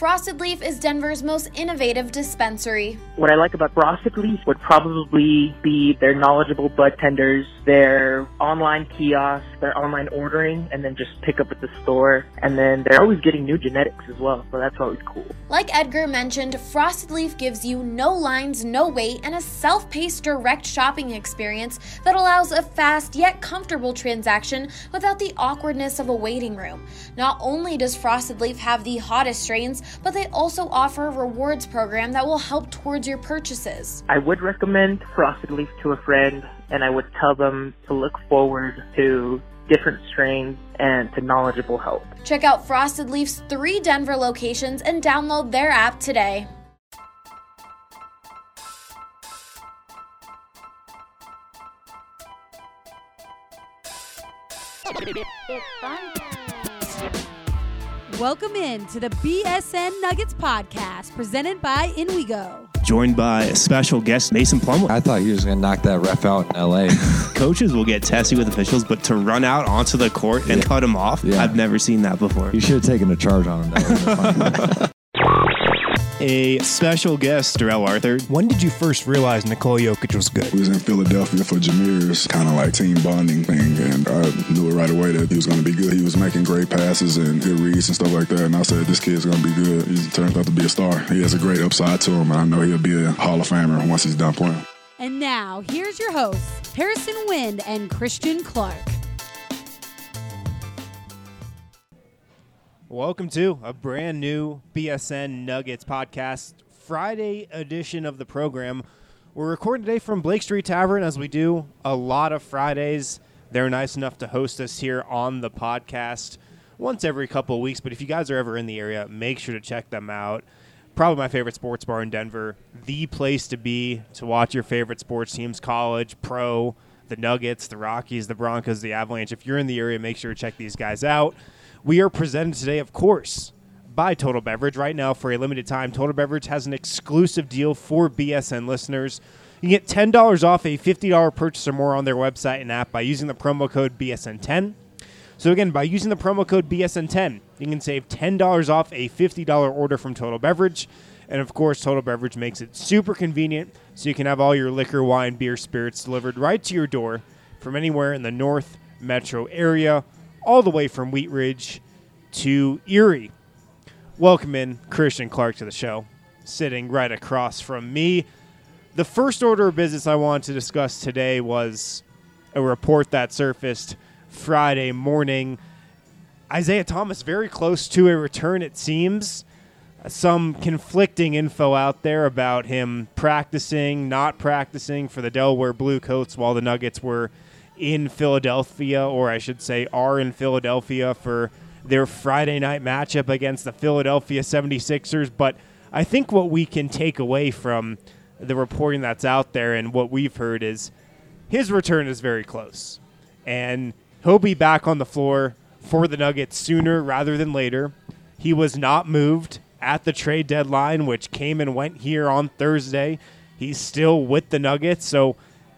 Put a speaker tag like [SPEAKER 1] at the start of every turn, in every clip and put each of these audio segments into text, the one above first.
[SPEAKER 1] Frosted Leaf is Denver's most innovative dispensary.
[SPEAKER 2] What I like about Frosted Leaf would probably be their knowledgeable bud tenders, their online kiosks, their online ordering, and then just pick up at the store. And then they're always getting new genetics as well, so that's always cool.
[SPEAKER 1] Like Edgar mentioned, Frosted Leaf gives you no lines, no wait, and a self-paced direct shopping experience that allows a fast yet comfortable transaction without the awkwardness of a waiting room. Not only does Frosted Leaf have the hottest strains, but they also offer a rewards program that will help towards your purchases.
[SPEAKER 2] I would recommend Frosted Leaf to a friend, and I would tell them to look forward to different strains and to knowledgeable help.
[SPEAKER 1] Check out Frosted Leaf's 3 Denver locations and download their app today.
[SPEAKER 3] Welcome in to the BSN Nuggets podcast presented by InWeGo.
[SPEAKER 4] Joined by a special guest, Mason Plumlee.
[SPEAKER 5] I thought he was going to knock that ref out in L.A.
[SPEAKER 4] Coaches will get testy with officials, but to run out onto the court and cut him off, I've never seen that before.
[SPEAKER 5] You should have taken a charge on him. That
[SPEAKER 4] A special guest, Darrell Arthur.
[SPEAKER 6] When did you first realize Nikola Jokic was good?
[SPEAKER 7] We was in Philadelphia for Jameer's kind of like team bonding thing, and I knew it right away that he was going to be good. He was making great passes and good reads and stuff like that, and I said, this kid's going to be good. He turned out to be a star. He has a great upside to him, and I know he'll be a Hall of Famer once he's done playing.
[SPEAKER 3] And now, here's your hosts, Harrison Wind and Christian Clark.
[SPEAKER 6] Welcome to a brand new BSN Nuggets podcast, Friday edition of the program. We're recording today from Blake Street Tavern, as we do a lot of Fridays. They're nice enough to host us here on the podcast once every couple of weeks, but if you guys are ever in the area, make sure to check them out. Probably my favorite sports bar in Denver, the place to be to watch your favorite sports teams, college, pro, the Nuggets, the Rockies, the Broncos, the Avalanche. If you're in the area, make sure to check these guys out. We are presented today, of course, by Total Beverage. Right now, for a limited time, Total Beverage has an exclusive deal for BSN listeners. You can get $10 off a $50 purchase or more on their website and app by using the promo code BSN10. So again, by using the promo code BSN10, you can save $10 off a $50 order from Total Beverage. And of course, Total Beverage makes it super convenient, so you can have all your liquor, wine, beer, spirits delivered right to your door from anywhere in the North Metro area, all the way from Wheat Ridge to Erie. Welcome in Christian Clark to the show, sitting right across from me. The first order of business I wanted to discuss today was a report that surfaced Friday morning. Isaiah Thomas very close to a return, it seems. Some conflicting info out there about him practicing, not practicing for the Delaware Blue Coats while the Nuggets were in Philadelphia, or I should say are in Philadelphia for their Friday night matchup against the Philadelphia 76ers. But I think what we can take away from the reporting that's out there and what we've heard is his return is very close. And he'll be back on the floor for the Nuggets sooner rather than later. He was not moved at the trade deadline, which came and went here on Thursday. He's still with the Nuggets, so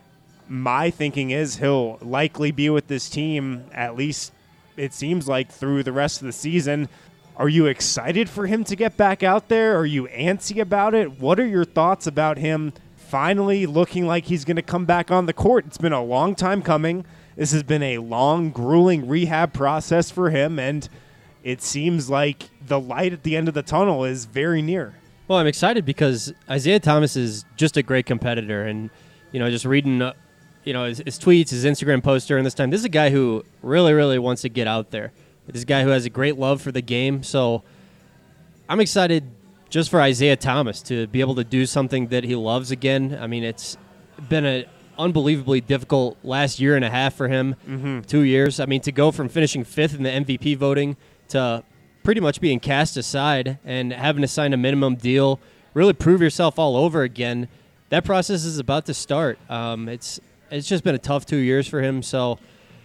[SPEAKER 6] my thinking is he'll likely be with this team, at least it seems like, through the rest of the season. Are you excited for him to get back out there? Are you antsy about it? What are your thoughts about him finally looking like he's going to come back on the court? It's been a long time coming. This has been a long, grueling rehab process for him, and it seems like the light at the end of the tunnel is very near.
[SPEAKER 8] Well, I'm excited because Isaiah Thomas is just a great competitor, and just reading his tweets, his Instagram posts during this time. This is a guy who really, really wants to get out there. This is a guy who has a great love for the game. So I'm excited just for Isaiah Thomas to be able to do something that he loves again. I mean, it's been an unbelievably difficult last year and a half for him, 2 years. I mean, to go from finishing 5th in the MVP voting to pretty much being cast aside and having to sign a minimum deal, really prove yourself all over again, that process is about to start. It's just been a tough 2 years for him. So,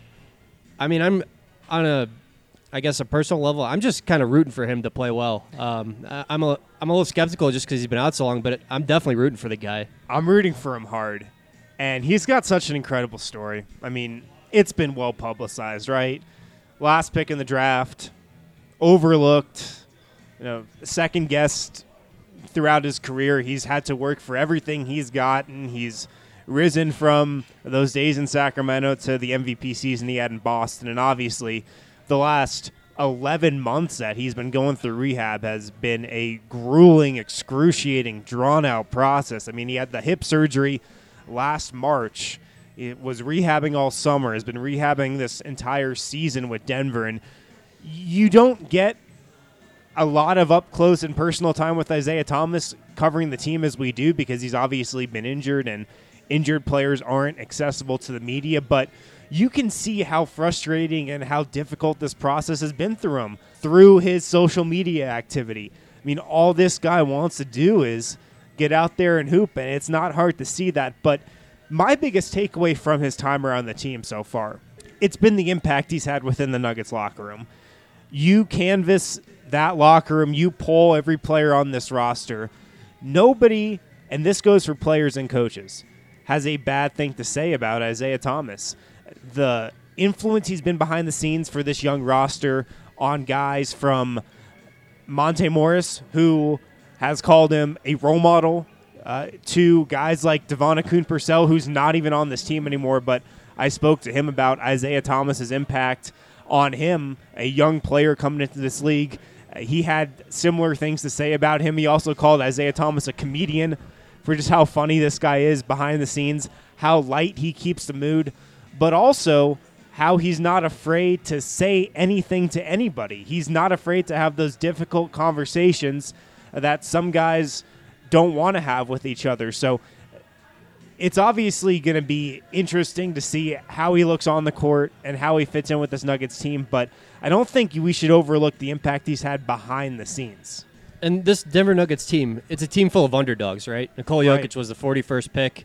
[SPEAKER 8] I mean, I'm on a personal level, I'm just kind of rooting for him to play well. I'm a little skeptical just because he's been out so long, but I'm definitely rooting for the guy.
[SPEAKER 6] I'm rooting for him hard, and he's got such an incredible story. I mean, it's been well publicized, right? Last pick in the draft, overlooked, second guessed throughout his career. He's had to work for everything he's gotten. He's risen from those days in Sacramento to the MVP season he had in Boston. And obviously the last 11 months that he's been going through rehab has been a grueling, excruciating, drawn-out process. I mean, he had the hip surgery last March. It was rehabbing all summer, has been rehabbing this entire season with Denver. And you don't get a lot of up-close and personal time with Isaiah Thomas covering the team as we do, because he's obviously been injured, and injured players aren't accessible to the media. But you can see how frustrating and how difficult this process has been through him, through his social media activity. I mean, all this guy wants to do is get out there and hoop, and it's not hard to see that. But my biggest takeaway from his time around the team so far, it's been the impact he's had within the Nuggets locker room. You canvass that locker room, you poll every player on this roster. Nobody, and this goes for players and coaches, has a bad thing to say about Isaiah Thomas. The influence he's been behind the scenes for this young roster on guys from Monte Morris, who has called him a role model, to guys like Devon Akoon-Purcell, who's not even on this team anymore, but I spoke to him about Isaiah Thomas's impact on him, a young player coming into this league. He had similar things to say about him. He also called Isaiah Thomas a comedian for just how funny this guy is behind the scenes, how light he keeps the mood, but also how he's not afraid to say anything to anybody. He's not afraid to have those difficult conversations that some guys don't want to have with each other. So it's obviously going to be interesting to see how he looks on the court and how he fits in with this Nuggets team, but I don't think we should overlook the impact he's had behind the scenes.
[SPEAKER 8] And this Denver Nuggets team, it's a team full of underdogs, right? Nikola Jokic was the 41st pick.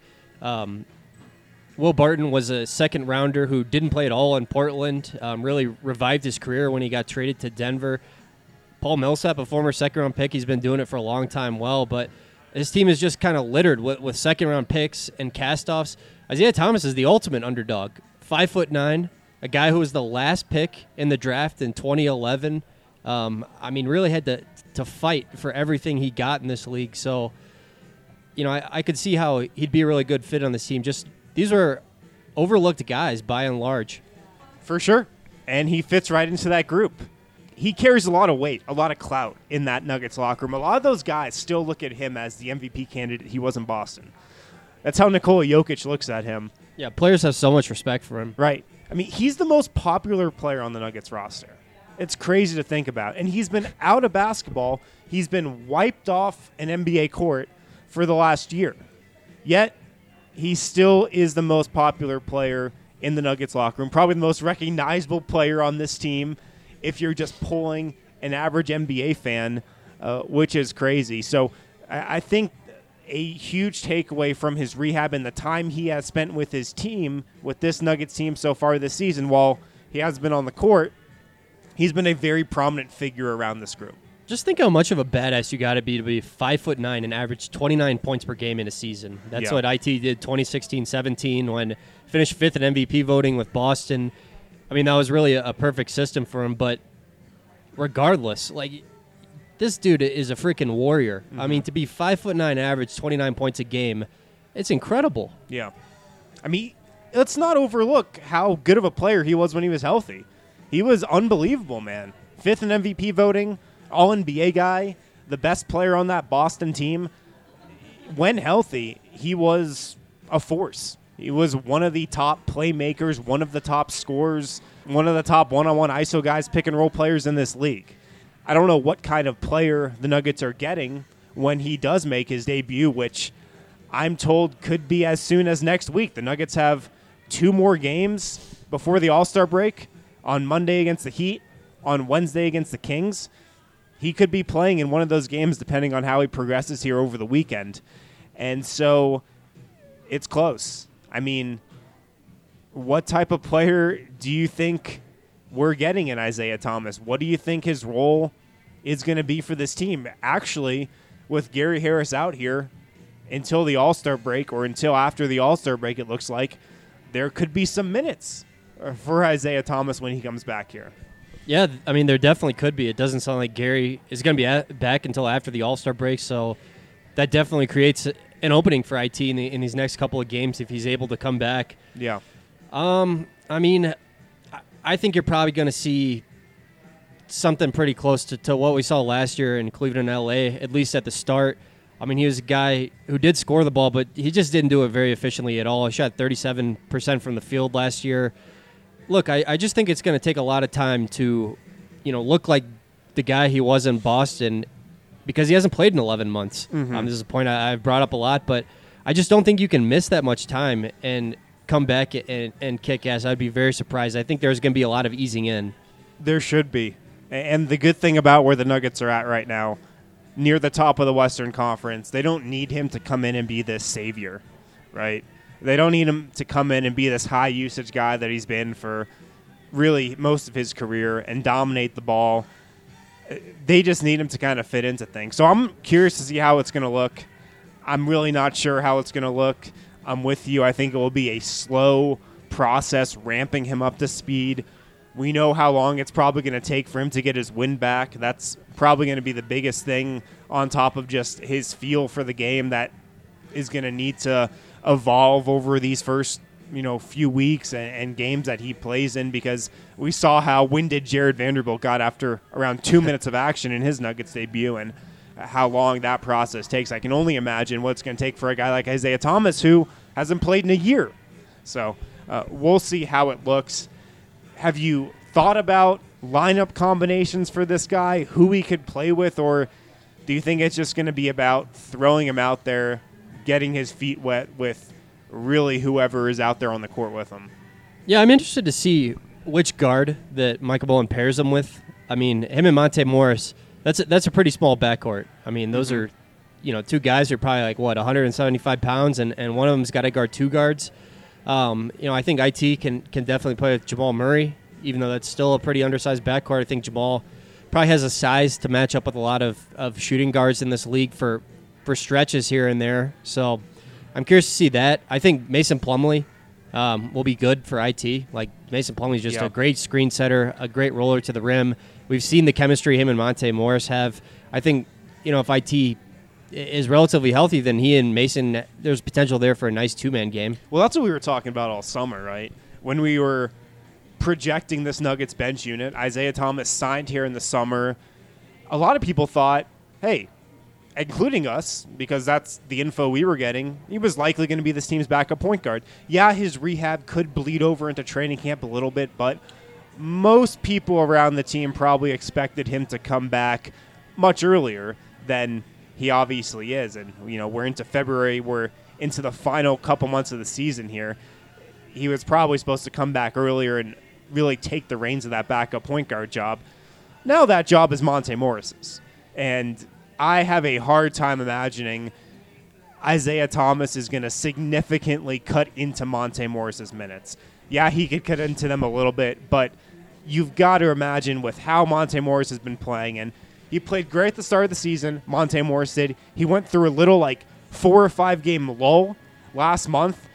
[SPEAKER 8] Will Barton was a second rounder who didn't play at all in Portland, really revived his career when he got traded to Denver. Paul Millsap, a former second-round pick, he's been doing it for a long time well, but his team is just kind of littered with second-round picks and cast-offs. Isaiah Thomas is the ultimate underdog. 5'9", a guy who was the last pick in the draft in 2011. I mean, really had to fight for everything he got in this league. So, I could see how he'd be a really good fit on this team. Just these were overlooked guys by and large.
[SPEAKER 6] For sure. And he fits right into that group. He carries a lot of weight, a lot of clout in that Nuggets locker room. A lot of those guys still look at him as the MVP candidate he was in Boston. That's how Nikola Jokic looks at him.
[SPEAKER 8] Yeah, players have so much respect for him.
[SPEAKER 6] Right. I mean, he's the most popular player on the Nuggets roster. It's crazy to think about. And he's been out of basketball. He's been wiped off an NBA court for the last year. Yet, he still is the most popular player in the Nuggets locker room, probably the most recognizable player on this team if you're just pulling an average NBA fan, which is crazy. So I think a huge takeaway from his rehab and the time he has spent with his team, with this Nuggets team so far this season, while he hasn't been on the court, he's been a very prominent figure around this group.
[SPEAKER 8] Just think how much of a badass you got to be 5'9" and average 29 points per game in a season. That's what IT did 2016-17 when finished fifth in MVP voting with Boston. I mean, that was really a perfect system for him. But regardless, this dude is a freaking warrior. Mm-hmm. I mean, to be 5'9", average 29 points a game, it's incredible.
[SPEAKER 6] Yeah. I mean, let's not overlook how good of a player he was when he was healthy. He was unbelievable, man. Fifth in MVP voting, All-NBA guy, the best player on that Boston team. When healthy, he was a force. He was one of the top playmakers, one of the top scorers, one of the top one-on-one ISO guys, pick-and-roll players in this league. I don't know what kind of player the Nuggets are getting when he does make his debut, which I'm told could be as soon as next week. The Nuggets have 2 more games before the All-Star break, on Monday against the Heat, on Wednesday against the Kings. He could be playing in one of those games depending on how he progresses here over the weekend. And so it's close. I mean, what type of player do you think we're getting in Isaiah Thomas? What do you think his role is going to be for this team? Actually, with Gary Harris out here until the All-Star break, or until after the All-Star break, it looks like there could be some minutes for Isaiah Thomas when he comes back here.
[SPEAKER 8] Yeah, I mean, there definitely could be. It doesn't sound like Gary is going to be back until after the All-Star break, so that definitely creates an opening for IT in these next couple of games if he's able to come back.
[SPEAKER 6] Yeah.
[SPEAKER 8] I mean, I think you're probably going to see something pretty close to what we saw last year in Cleveland and LA, at least at the start. I mean, he was a guy who did score the ball, but he just didn't do it very efficiently at all. He shot 37% from the field last year. Look, I just think it's going to take a lot of time to, look like the guy he was in Boston because he hasn't played in 11 months. This is a point I've brought up a lot, but I just don't think you can miss that much time and come back and kick ass. I'd be very surprised. I think there's going to be a lot of easing in.
[SPEAKER 6] There should be. And the good thing about where the Nuggets are at right now, near the top of the Western Conference, they don't need him to come in and be this savior, right? They don't need him to come in and be this high-usage guy that he's been for really most of his career and dominate the ball. They just need him to kind of fit into things. So I'm curious to see how it's going to look. I'm really not sure how it's going to look. I'm with you. I think it will be a slow process ramping him up to speed. We know how long it's probably going to take for him to get his wind back. That's probably going to be the biggest thing on top of just his feel for the game that is going to need to evolve over these first few weeks and games that he plays in, because we saw how winded Jared Vanderbilt got after around 2 minutes of action in his Nuggets debut and how long that process takes. I can only imagine what it's going to take for a guy like Isaiah Thomas who hasn't played in a year. So we'll see how it looks. Have you thought about lineup combinations for this guy, who he could play with, or do you think it's just going to be about throwing him out there, getting his feet wet with really whoever is out there on the court with him?
[SPEAKER 8] Yeah, I'm interested to see which guard that Michael Bowen pairs him with. I mean, him and Monte Morris, that's a pretty small backcourt. I mean, those are, two guys who are probably 175 pounds, and one of them's got to guard two guards. I think IT can definitely play with Jamal Murray, even though that's still a pretty undersized backcourt. I think Jamal probably has a size to match up with a lot of shooting guards in this league for stretches here and there. So I'm curious to see that. I think Mason Plumlee will be good for IT. Mason Plumlee's just a great screen setter, a great roller to the rim. We've seen the chemistry him and Monte Morris have. I think, if IT is relatively healthy, then he and Mason, there's potential there for a nice two-man game.
[SPEAKER 6] Well, that's what we were talking about all summer, right? When we were projecting this Nuggets bench unit, Isaiah Thomas signed here in the summer. A lot of people thought, hey, including us, because that's the info we were getting, he was likely going to be this team's backup point guard. Yeah, his rehab could bleed over into training camp a little bit, but most people around the team probably expected him to come back much earlier than he obviously is. And, we're into February. We're into the final couple months of the season here. He was probably supposed to come back earlier and really take the reins of that backup point guard job. Now that job is Monte Morris's. And I have a hard time imagining Isaiah Thomas is going to significantly cut into Monte Morris's minutes. Yeah, he could cut into them a little bit, but you've got to imagine with how Monte Morris has been playing, and he played great at the start of the season, Monte Morris did. He went through a little 4 or 5 game lull last month.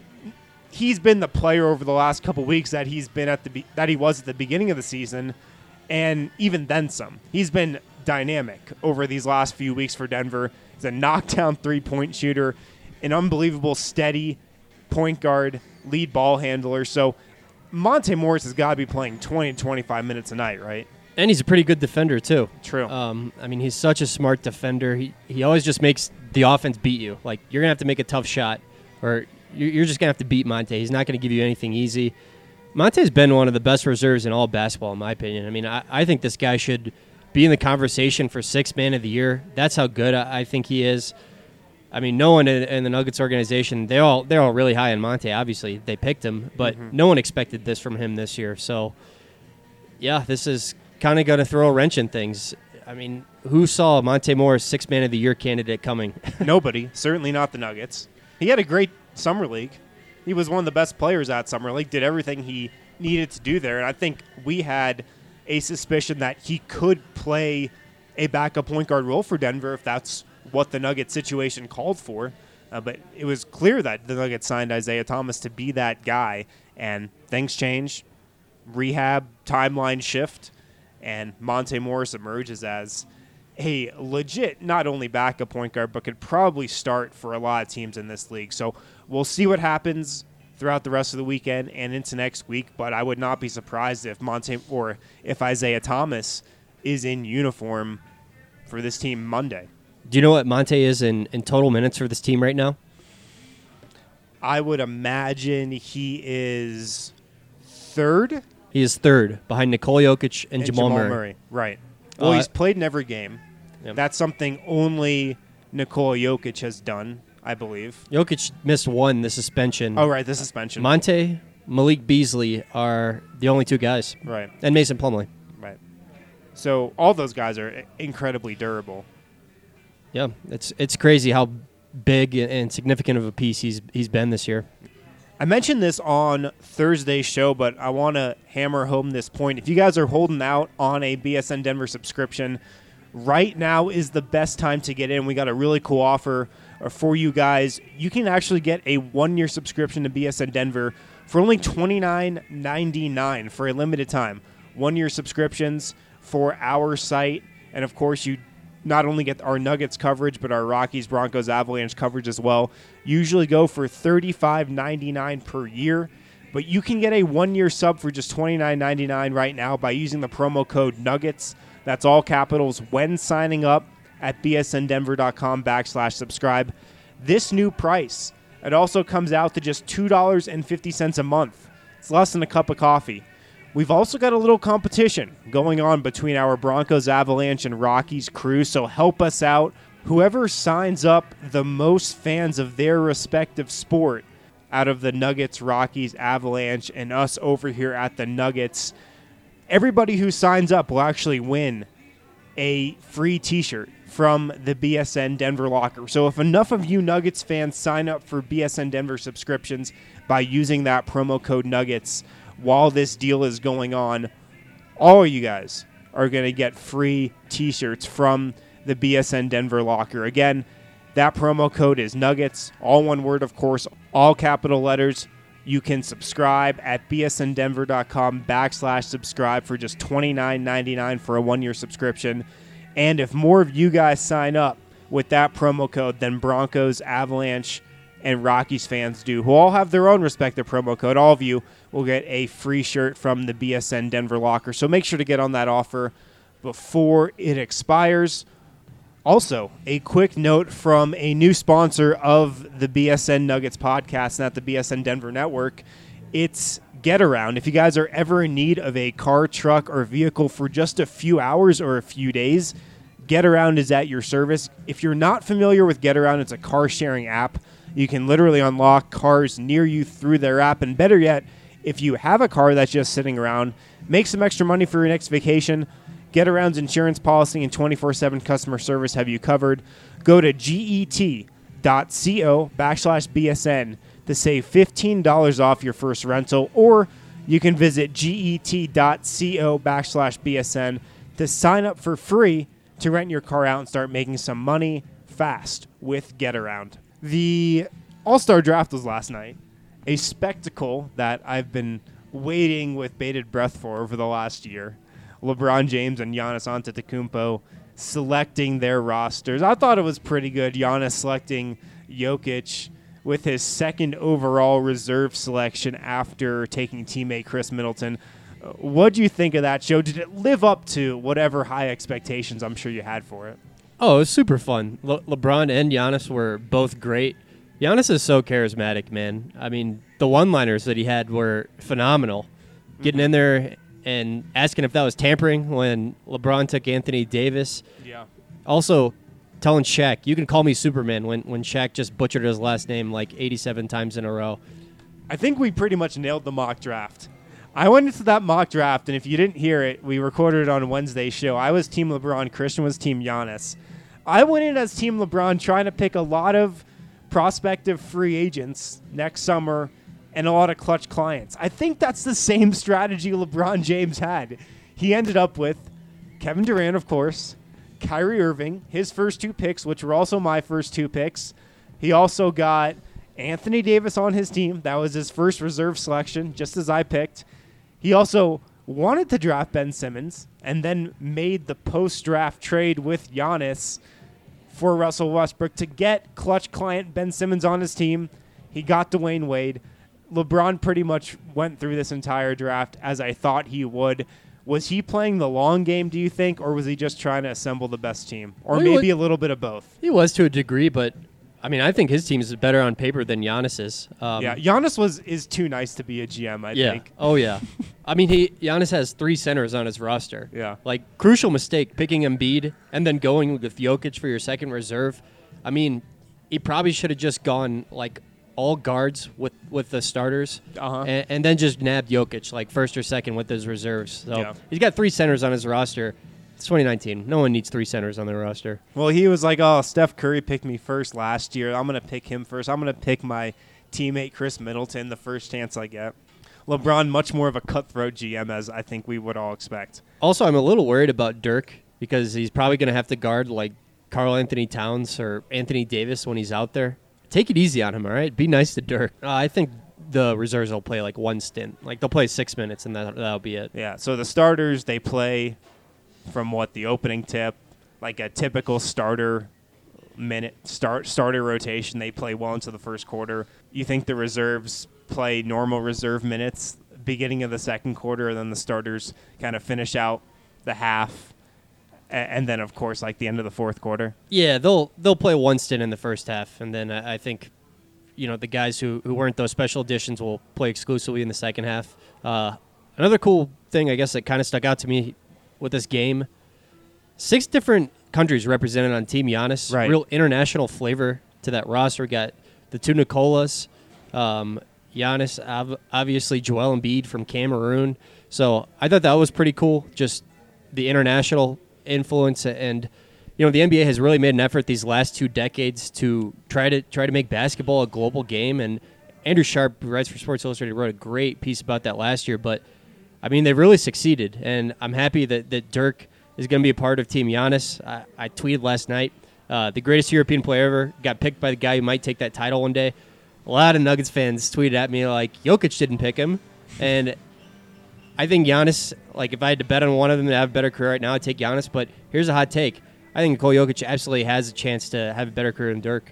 [SPEAKER 6] He's been the player over the last couple weeks that he's been that he was at the beginning of the season, and even then some. He's been dynamic over these last few weeks for Denver. He's a knockdown three-point shooter, an unbelievable steady point guard, lead ball handler. So Monte Morris has got to be playing 20 to 25 minutes a night, right?
[SPEAKER 8] And he's a pretty good defender, too.
[SPEAKER 6] True.
[SPEAKER 8] He's such a smart defender. He always just makes the offense beat you. You're going to have to make a tough shot, or you're just going to have to beat Monte. He's not going to give you anything easy. Monte's been one of the best reserves in all basketball, in my opinion. I think this guy should be in the conversation for Sixth Man of the Year. That's how good I think he is. No one in the Nuggets organization, they're all really high on Monte. Obviously, they picked him, but no one expected this from him this year. So, yeah, this is kind of going to throw a wrench in things. Who saw Monte Morris Sixth Man of the Year candidate coming?
[SPEAKER 6] Nobody. Certainly not the Nuggets. He had a great summer league. He was one of the best players at summer league, did everything he needed to do there, and I think we had a suspicion that he could play a backup point guard role for Denver if that's what the Nuggets situation called for. But it was clear that the Nuggets signed Isaiah Thomas to be that guy, and things change. Rehab, timeline shift. and Monte Morris emerges as a legit, not only backup point guard, but could probably start for a lot of teams in this league. So we'll see what happens throughout the rest of the weekend and into next week, but I would not be surprised if Isaiah Thomas is in uniform for this team Monday.
[SPEAKER 8] Do you know what Monte is in total minutes for this team right now?
[SPEAKER 6] I would imagine he is third.
[SPEAKER 8] He is third, behind Nikola Jokic and Jamal Murray.
[SPEAKER 6] Right. Well, he's played in every game.
[SPEAKER 8] Yep.
[SPEAKER 6] That's something only Nikola Jokic has done, I believe.
[SPEAKER 8] Jokic missed the suspension.
[SPEAKER 6] Oh, right, the suspension.
[SPEAKER 8] Monte, Malik Beasley are the only two guys.
[SPEAKER 6] Right.
[SPEAKER 8] And Mason Plumlee.
[SPEAKER 6] Right. So all those guys are incredibly durable.
[SPEAKER 8] Yeah, it's crazy how big and significant of a piece he's been this year.
[SPEAKER 6] I mentioned this on Thursday's show, but I want to hammer home this point. If you guys are holding out on a BSN Denver subscription, right now is the best time to get in. We got a really cool offer for you guys. You can actually get a 1-year subscription to BSN Denver for only $29.99 for a limited time. 1-year subscriptions for our site, and of course you not only get our Nuggets coverage, but our Rockies, Broncos, Avalanche coverage as well. Usually go for $35.99 per year, but you can get a 1-year sub for just $29.99 right now by using the promo code Nuggets. That's all capitals when signing up at bsndenver.com/subscribe. This new price, it also comes out to just $2.50 a month. It's less than a cup of coffee. We've also got a little competition going on between our Broncos, Avalanche, and Rockies crew, so help us out. Whoever signs up the most fans of their respective sport out of the Nuggets, Rockies, Avalanche, and us over here at the Nuggets, everybody who signs up will actually win a free T-shirt from the BSN Denver locker. So if enough of you Nuggets fans sign up for BSN Denver subscriptions by using that promo code Nuggets while this deal is going on, all of you guys are going to get free T-shirts from the BSN Denver locker. Again, that promo code is Nuggets, all one word, of course, all capital letters. You can subscribe at bsndenver.com/subscribe for just $29.99 for a 1-year subscription. And if more of you guys sign up with that promo code than Broncos, Avalanche, and Rockies fans do, who all have their own respective promo code, all of you will get a free shirt from the BSN Denver locker. So make sure to get on that offer before it expires. Also, a quick note from a new sponsor of the BSN Nuggets podcast and at the BSN Denver Network. It's GetAround. If you guys are ever in need of a car, truck, or vehicle for just a few hours or a few days, GetAround is at your service. If you're not familiar with GetAround, it's a car-sharing app. You can literally unlock cars near you through their app. And better yet, if you have a car that's just sitting around, make some extra money for your next vacation. GetAround's insurance policy and 24/7 customer service have you covered. Go to get.co/BSN to save $15 off your first rental, or you can visit get.co/BSN to sign up for free to rent your car out and start making some money fast with GetAround. The All-Star Draft was last night, a spectacle that I've been waiting with bated breath for over the last year. LeBron James and Giannis Antetokounmpo selecting their rosters. I thought it was pretty good. Giannis selecting Jokic with his second overall reserve selection after taking teammate Chris Middleton. What do you think of that show? Did it live up to whatever high expectations I'm sure you had for it?
[SPEAKER 8] Oh, it was super fun. LeBron and Giannis were both great. Giannis is so charismatic, man. I mean, the one-liners that he had were phenomenal. Getting in there and asking if that was tampering when LeBron took Anthony Davis.
[SPEAKER 6] Yeah.
[SPEAKER 8] Also, telling Shaq, you can call me Superman when Shaq just butchered his last name like 87 times in a row.
[SPEAKER 6] I think we pretty much nailed the mock draft. I went into that mock draft, and if you didn't hear it, we recorded it on Wednesday's show. I was Team LeBron. Christian was Team Giannis. I went in as Team LeBron trying to pick a lot of prospective free agents next summer and a lot of clutch clients. I think that's the same strategy LeBron James had. He ended up with Kevin Durant, of course, Kyrie Irving, his first 2 picks, which were also my first 2 picks. He also got Anthony Davis on his team. That was his first reserve selection, just as I picked. He also wanted to draft Ben Simmons and then made the post-draft trade with Giannis for Russell Westbrook to get clutch client Ben Simmons on his team. He got Dwayne Wade. LeBron pretty much went through this entire draft as I thought he would. Was he playing the long game, do you think, or was he just trying to assemble the best team? Or maybe a little bit of both?
[SPEAKER 8] He was to a degree, but I mean, I think his team is better on paper than Giannis's.
[SPEAKER 6] Giannis is too nice to be a GM, I think.
[SPEAKER 8] Oh, yeah. I mean, Giannis has 3 centers on his roster.
[SPEAKER 6] Yeah.
[SPEAKER 8] Like, crucial mistake, picking Embiid and then going with Jokic for your second reserve. I mean, he probably should have just gone, like, all guards with the starters and then just nabbed Jokic, like, first or second with his reserves. So he's got 3 centers on his roster. It's 2019. No one needs 3 centers on their roster.
[SPEAKER 6] Well, he was like, oh, Steph Curry picked me first last year. I'm going to pick him first. I'm going to pick my teammate Chris Middleton the first chance I get. LeBron, much more of a cutthroat GM, as I think we would all expect.
[SPEAKER 8] Also, I'm a little worried about Dirk because he's probably going to have to guard like Karl Anthony Towns or Anthony Davis when he's out there. Take it easy on him, all right? Be nice to Dirk. I think the reserves will play like one stint. Like, they'll play 6 minutes, and that'll be it.
[SPEAKER 6] Yeah, so the starters, they play from the opening tip, like a typical starter rotation. They play well into the first quarter. You think the reserves play normal reserve minutes beginning of the second quarter, and then the starters kind of finish out the half, and then, of course, like the end of the fourth quarter?
[SPEAKER 8] Yeah, they'll play one stint in the first half, and then I think the guys who weren't those special additions will play exclusively in the second half. Another cool thing, I guess, that kind of stuck out to me with this game, 6 different countries represented on Team Giannis.
[SPEAKER 6] Right.
[SPEAKER 8] Real international flavor to that roster. We got the 2 Nicolas, Giannis, obviously Joel Embiid from Cameroon. So I thought that was pretty cool, just the international influence. And the NBA has really made an effort these last 2 decades to try to make basketball a global game. And Andrew Sharp, who writes for Sports Illustrated, wrote a great piece about that last year. But I mean, they've really succeeded, and I'm happy that Dirk is going to be a part of Team Giannis. I tweeted last night, the greatest European player ever got picked by the guy who might take that title one day. A lot of Nuggets fans tweeted at me like, Jokic didn't pick him, and I think Giannis, like, if I had to bet on one of them to have a better career right now, I'd take Giannis, but here's a hot take. I think Nikola Jokic absolutely has a chance to have a better career than Dirk.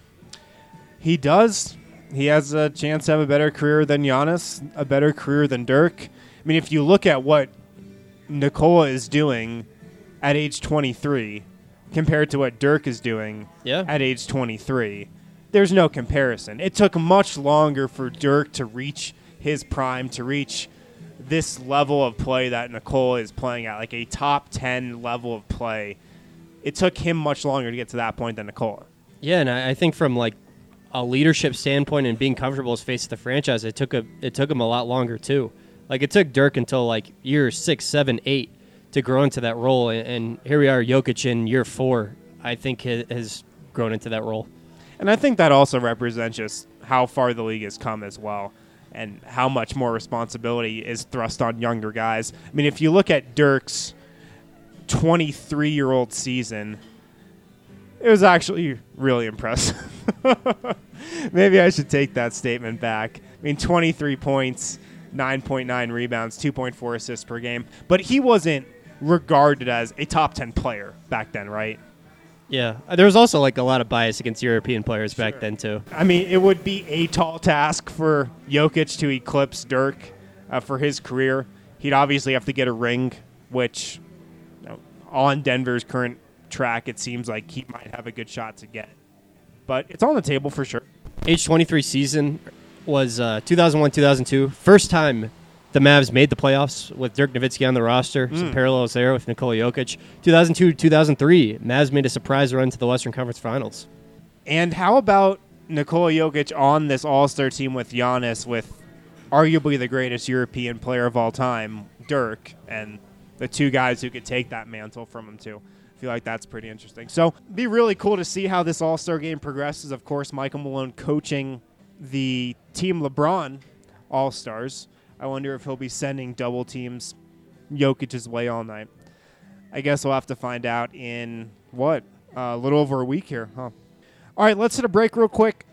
[SPEAKER 6] He does. He has a chance to have a better career than Giannis, a better career than Dirk. I mean, if you look at what Nikola is doing at age 23 compared to what Dirk is doing at age 23, there's no comparison. It took much longer for Dirk to reach his prime, to reach this level of play that Nikola is playing at, like a top 10 level of play. It took him much longer to get to that point than Nikola.
[SPEAKER 8] Yeah, and I think from like a leadership standpoint and being comfortable as face of the franchise, it took him a lot longer too. Like, it took Dirk until, like, year 6, 7, 8 to grow into that role. And here we are, Jokic in year 4, I think, has grown into that role.
[SPEAKER 6] And I think that also represents just how far the league has come as well and how much more responsibility is thrust on younger guys. I mean, if you look at Dirk's 23-year-old season, it was actually really impressive. Maybe I should take that statement back. I mean, 23 points, 9.9 rebounds, 2.4 assists per game. But he wasn't regarded as a top 10 player back then, right?
[SPEAKER 8] Yeah. There was also like a lot of bias against European players back then, too.
[SPEAKER 6] I mean, it would be a tall task for Jokic to eclipse Dirk for his career. He'd obviously have to get a ring, which on Denver's current track, it seems like he might have a good shot to get. But it's on the table for sure.
[SPEAKER 8] Age 23 season was 2001-2002. First time the Mavs made the playoffs with Dirk Nowitzki on the roster. Some parallels there with Nikola Jokic. 2002-2003, Mavs made a surprise run to the Western Conference Finals.
[SPEAKER 6] And how about Nikola Jokic on this All-Star team with Giannis, with arguably the greatest European player of all time, Dirk, and the 2 guys who could take that mantle from him too? I feel like that's pretty interesting. So it'd be really cool to see how this All-Star game progresses. Of course, Michael Malone coaching the Team LeBron All-Stars. I wonder if he'll be sending double teams Jokic's way all night. I guess we'll have to find out in, a little over a week here, huh? All right, let's hit a break real quick.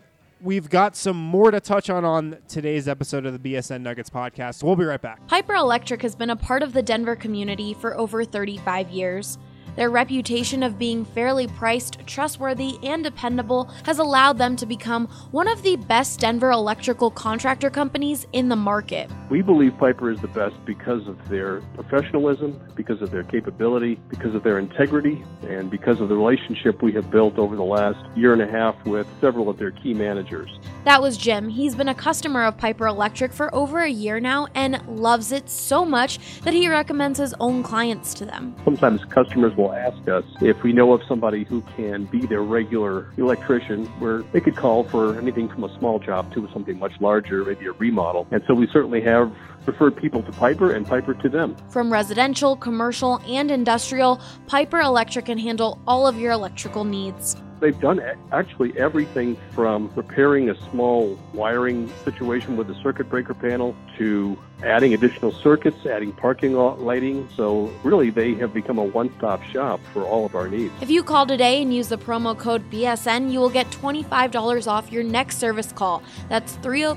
[SPEAKER 6] We've got some more to touch on today's episode of the BSN Nuggets podcast. We'll be right back.
[SPEAKER 1] Piper Electric has been a part of the Denver community for over 35 years. Their reputation of being fairly priced, trustworthy, and dependable has allowed them to become one of the best Denver electrical contractor companies in the market.
[SPEAKER 9] We believe Piper is the best because of their professionalism, because of their capability, because of their integrity, and because of the relationship we have built over the last year and a half with several of their key managers.
[SPEAKER 1] That was Jim. He's been a customer of Piper Electric for over a year now and loves it so much that he recommends his own clients to them.
[SPEAKER 9] Sometimes customers will ask us if we know of somebody who can be their regular electrician, where they could call for anything from a small job to something much larger, maybe a remodel. And so we certainly have referred people to Piper and Piper to them.
[SPEAKER 1] From residential, commercial, and industrial, Piper Electric can handle all of your electrical needs.
[SPEAKER 9] They've done actually everything from repairing a small wiring situation with a circuit breaker panel to adding additional circuits, adding parking lot lighting. So really, they have become a one-stop shop for all of our needs.
[SPEAKER 1] If you call today and use the promo code BSN, you will get $25 off your next service call. That's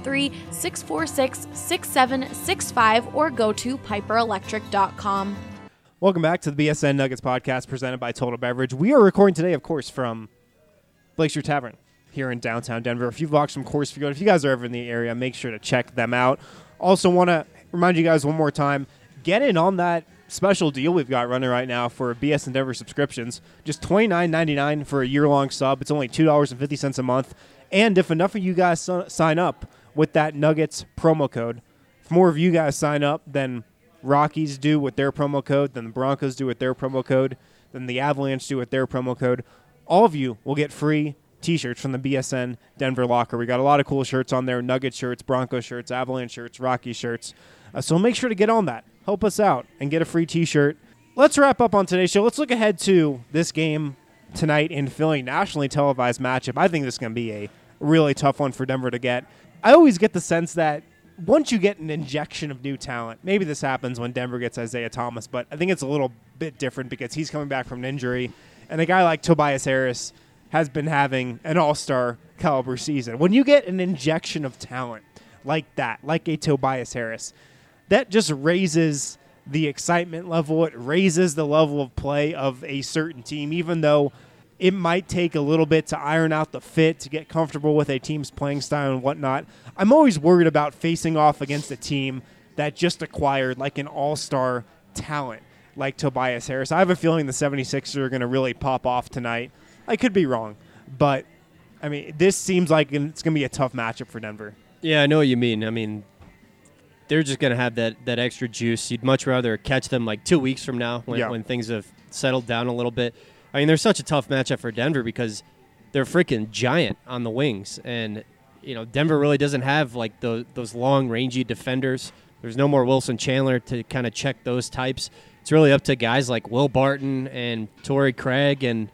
[SPEAKER 1] 303-646-6765 or go to piperelectric.com.
[SPEAKER 6] Welcome back to the BSN Nuggets podcast presented by Total Beverage. We are recording today, of course, from Blake Street Tavern here in downtown Denver. A few blocks from Coors Field. If you guys are ever in the area, make sure to check them out. Also want to remind you guys one more time, get in on that special deal we've got running right now for BSN Denver subscriptions. Just $29.99 for a year-long sub. It's only $2.50 a month. And if enough of you guys sign up with that Nuggets promo code, if more of you guys sign up than Rockies do with their promo code, then the Broncos do with their promo code, then the Avalanche do with their promo code, all of you will get free T-shirts from the BSN Denver locker. We got a lot of cool shirts on there, Nugget shirts, Bronco shirts, Avalanche shirts, Rocky shirts. So make sure to get on that. Help us out and get a free T-shirt. Let's wrap up on today's show. Let's look ahead to this game tonight in Philly, nationally televised matchup. I think this is going to be a really tough one for Denver to get. I always get the sense that once you get an injection of new talent, maybe this happens when Denver gets Isaiah Thomas, but I think it's a little bit different because he's coming back from an injury, and a guy like Tobias Harris has been having an all-star caliber season. When you get an injection of talent like that, like a Tobias Harris, that just raises the excitement level. It raises the level of play of a certain team, even though it might take a little bit to iron out the fit, to get comfortable with a team's playing style and whatnot. I'm always worried about facing off against a team that just acquired like an all-star talent like Tobias Harris. I have a feeling the 76ers are going to really pop off tonight. I could be wrong, but, I mean, this seems like it's going to be a tough matchup for Denver.
[SPEAKER 8] Yeah, I know what you mean. I mean, they're just going to have that extra juice. You'd much rather catch them like 2 weeks from now when things have settled down a little bit. I mean, they're such a tough matchup for Denver because they're freaking giant on the wings. And, you know, Denver really doesn't have like those long, rangy defenders. There's no more Wilson Chandler to kind of check those types. It's really up to guys like Will Barton and Torrey Craig, and,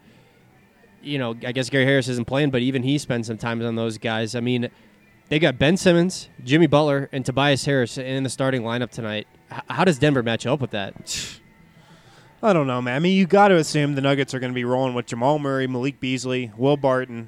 [SPEAKER 8] you know, I guess Gary Harris isn't playing, but even he spends some time on those guys. I mean, they got Ben Simmons, Jimmy Butler, and Tobias Harris in the starting lineup tonight. How does Denver match up with that?
[SPEAKER 6] I don't know, man. I mean, you got to assume the Nuggets are going to be rolling with Jamal Murray, Malik Beasley, Will Barton.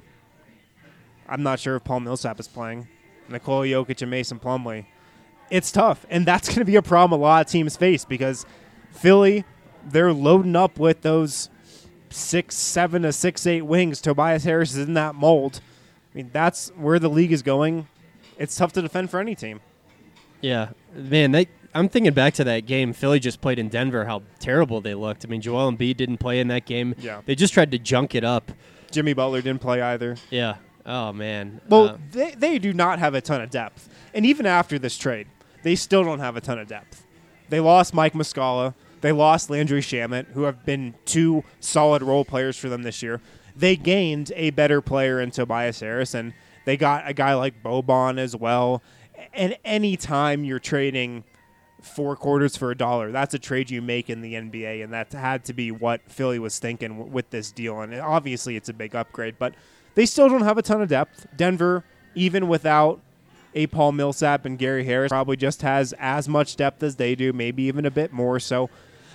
[SPEAKER 6] I'm not sure if Paul Millsap is playing. Nikola Jokic and Mason Plumlee. It's tough, and that's going to be a problem a lot of teams face because Philly, they're loading up with those 6'7" to 6'8" wings. Tobias Harris is in that mold. I mean, that's where the league is going. It's tough to defend for any team.
[SPEAKER 8] Yeah, man, I'm thinking back to that game Philly just played in Denver, how terrible they looked. I mean, Joel Embiid didn't play in that game.
[SPEAKER 6] Yeah.
[SPEAKER 8] They just tried to junk it up.
[SPEAKER 6] Jimmy Butler didn't play either.
[SPEAKER 8] Yeah. Oh, man.
[SPEAKER 6] Well, they do not have a ton of depth. And even after this trade, they still don't have a ton of depth. They lost Mike Muscala. They lost Landry Shamet, who have been two solid role players for them this year. They gained a better player in Tobias Harris, and they got a guy like Boban as well. And any time you're trading 4 quarters for $1, that's a trade you make in the NBA, and that had to be what Philly was thinking with this deal. And obviously it's a big upgrade, but they still don't have a ton of depth. Denver, even without a Paul Millsap and Gary Harris, probably just has as much depth as they do, maybe even a bit more. So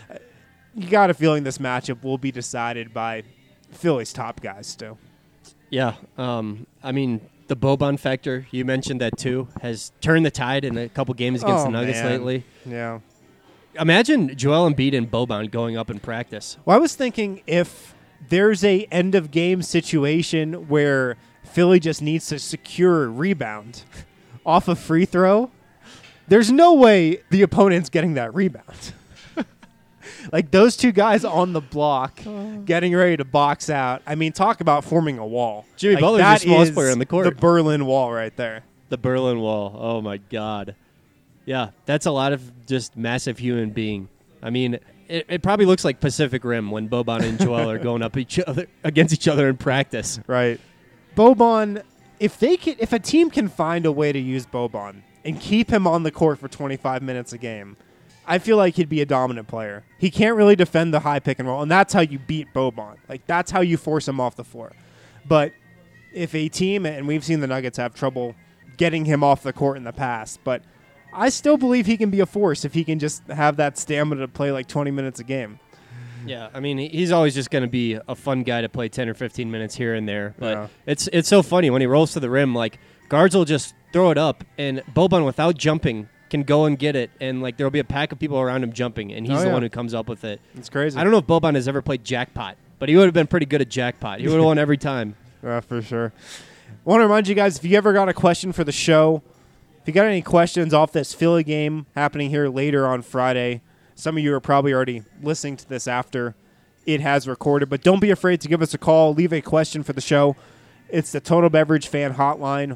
[SPEAKER 6] you got a feeling this matchup will be decided by Philly's top guys still.
[SPEAKER 8] Yeah. I mean, the Boban factor, you mentioned that too, has turned the tide in a couple games against the Nuggets lately.
[SPEAKER 6] Yeah.
[SPEAKER 8] Imagine Joel Embiid and Boban going up in practice.
[SPEAKER 6] Well, I was thinking if there's a end of game situation where Philly just needs to secure a rebound off a free throw, there's no way the opponent's getting that rebound. Like those two guys on the block getting ready to box out. I mean, talk about forming a wall.
[SPEAKER 8] Jimmy
[SPEAKER 6] like,
[SPEAKER 8] Butler's the smallest player on the court.
[SPEAKER 6] The Berlin Wall right there.
[SPEAKER 8] The Berlin Wall. Oh, my God. Yeah, that's a lot of just massive human being. I mean, it probably looks like Pacific Rim when Boban and Joel are going up against each other in practice.
[SPEAKER 6] Right. Boban, if a team can find a way to use Boban and keep him on the court for 25 minutes a game, I feel like he'd be a dominant player. He can't really defend the high pick and roll, and that's how you beat Boban. Like, that's how you force him off the floor. But if a team, and we've seen the Nuggets have trouble getting him off the court in the past, but I still believe he can be a force if he can just have that stamina to play like 20 minutes a game.
[SPEAKER 8] Yeah, I mean, he's always just going to be a fun guy to play 10 or 15 minutes here and there. But it's so funny when he rolls to the rim, like, guards will just throw it up, and Boban, without jumping, can go and get it, and like there'll be a pack of people around him jumping, and he's the one who comes up with it.
[SPEAKER 6] It's crazy.
[SPEAKER 8] I don't know if Boban has ever played jackpot, but he would have been pretty good at jackpot. He would have won every time.
[SPEAKER 6] For sure. I want to remind you guys, if you ever got a question for the show, if you got any questions off this Philly game happening here later on Friday, some of you are probably already listening to this after it has recorded, but don't be afraid to give us a call. Leave a question for the show. It's the Total Beverage Fan Hotline,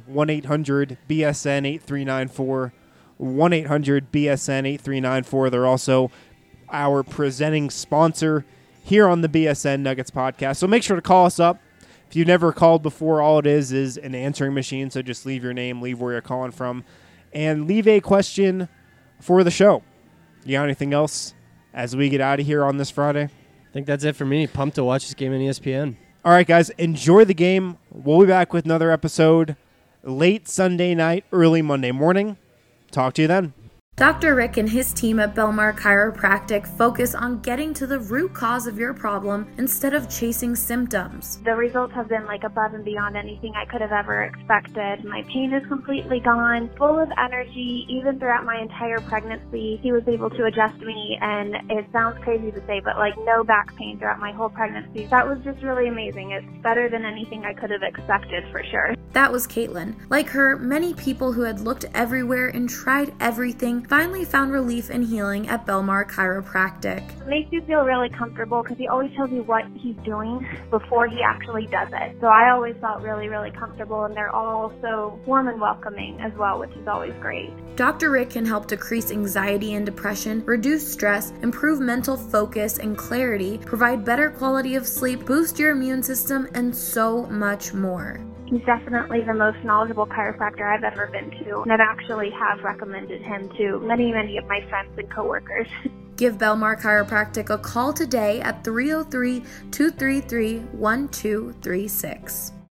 [SPEAKER 6] 1-800-BSN-8394. 1-800-BSN-8394. They're also our presenting sponsor here on the BSN Nuggets podcast. So make sure to call us up. If you've never called before, all it is an answering machine. So just leave your name, leave where you're calling from, and leave a question for the show. You got anything else as we get out of here on this Friday?
[SPEAKER 8] I think that's it for me. Pumped to watch this game on ESPN.
[SPEAKER 6] All right, guys, enjoy the game. We'll be back with another episode late Sunday night, early Monday morning. Talk to you then.
[SPEAKER 1] Dr. Rick and his team at Belmar Chiropractic focus on getting to the root cause of your problem instead of chasing symptoms.
[SPEAKER 10] The results have been like above and beyond anything I could have ever expected. My pain is completely gone, full of energy. Even throughout my entire pregnancy, he was able to adjust me, and it sounds crazy to say, but like no back pain throughout my whole pregnancy. That was just really amazing. It's better than anything I could have expected for sure.
[SPEAKER 1] That was Caitlin. Like her, many people who had looked everywhere and tried everything finally found relief and healing at Belmar Chiropractic.
[SPEAKER 10] It makes you feel really comfortable because he always tells you what he's doing before he actually does it. So I always felt really, really comfortable, and they're all so warm and welcoming as well, which is always great.
[SPEAKER 1] Dr. Rick can help decrease anxiety and depression, reduce stress, improve mental focus and clarity, provide better quality of sleep, boost your immune system, and so much more.
[SPEAKER 10] He's definitely the most knowledgeable chiropractor I've ever been to, and I've actually have recommended him to many, many of my friends and coworkers.
[SPEAKER 1] Give Belmar Chiropractic a call today at 303-233-1236.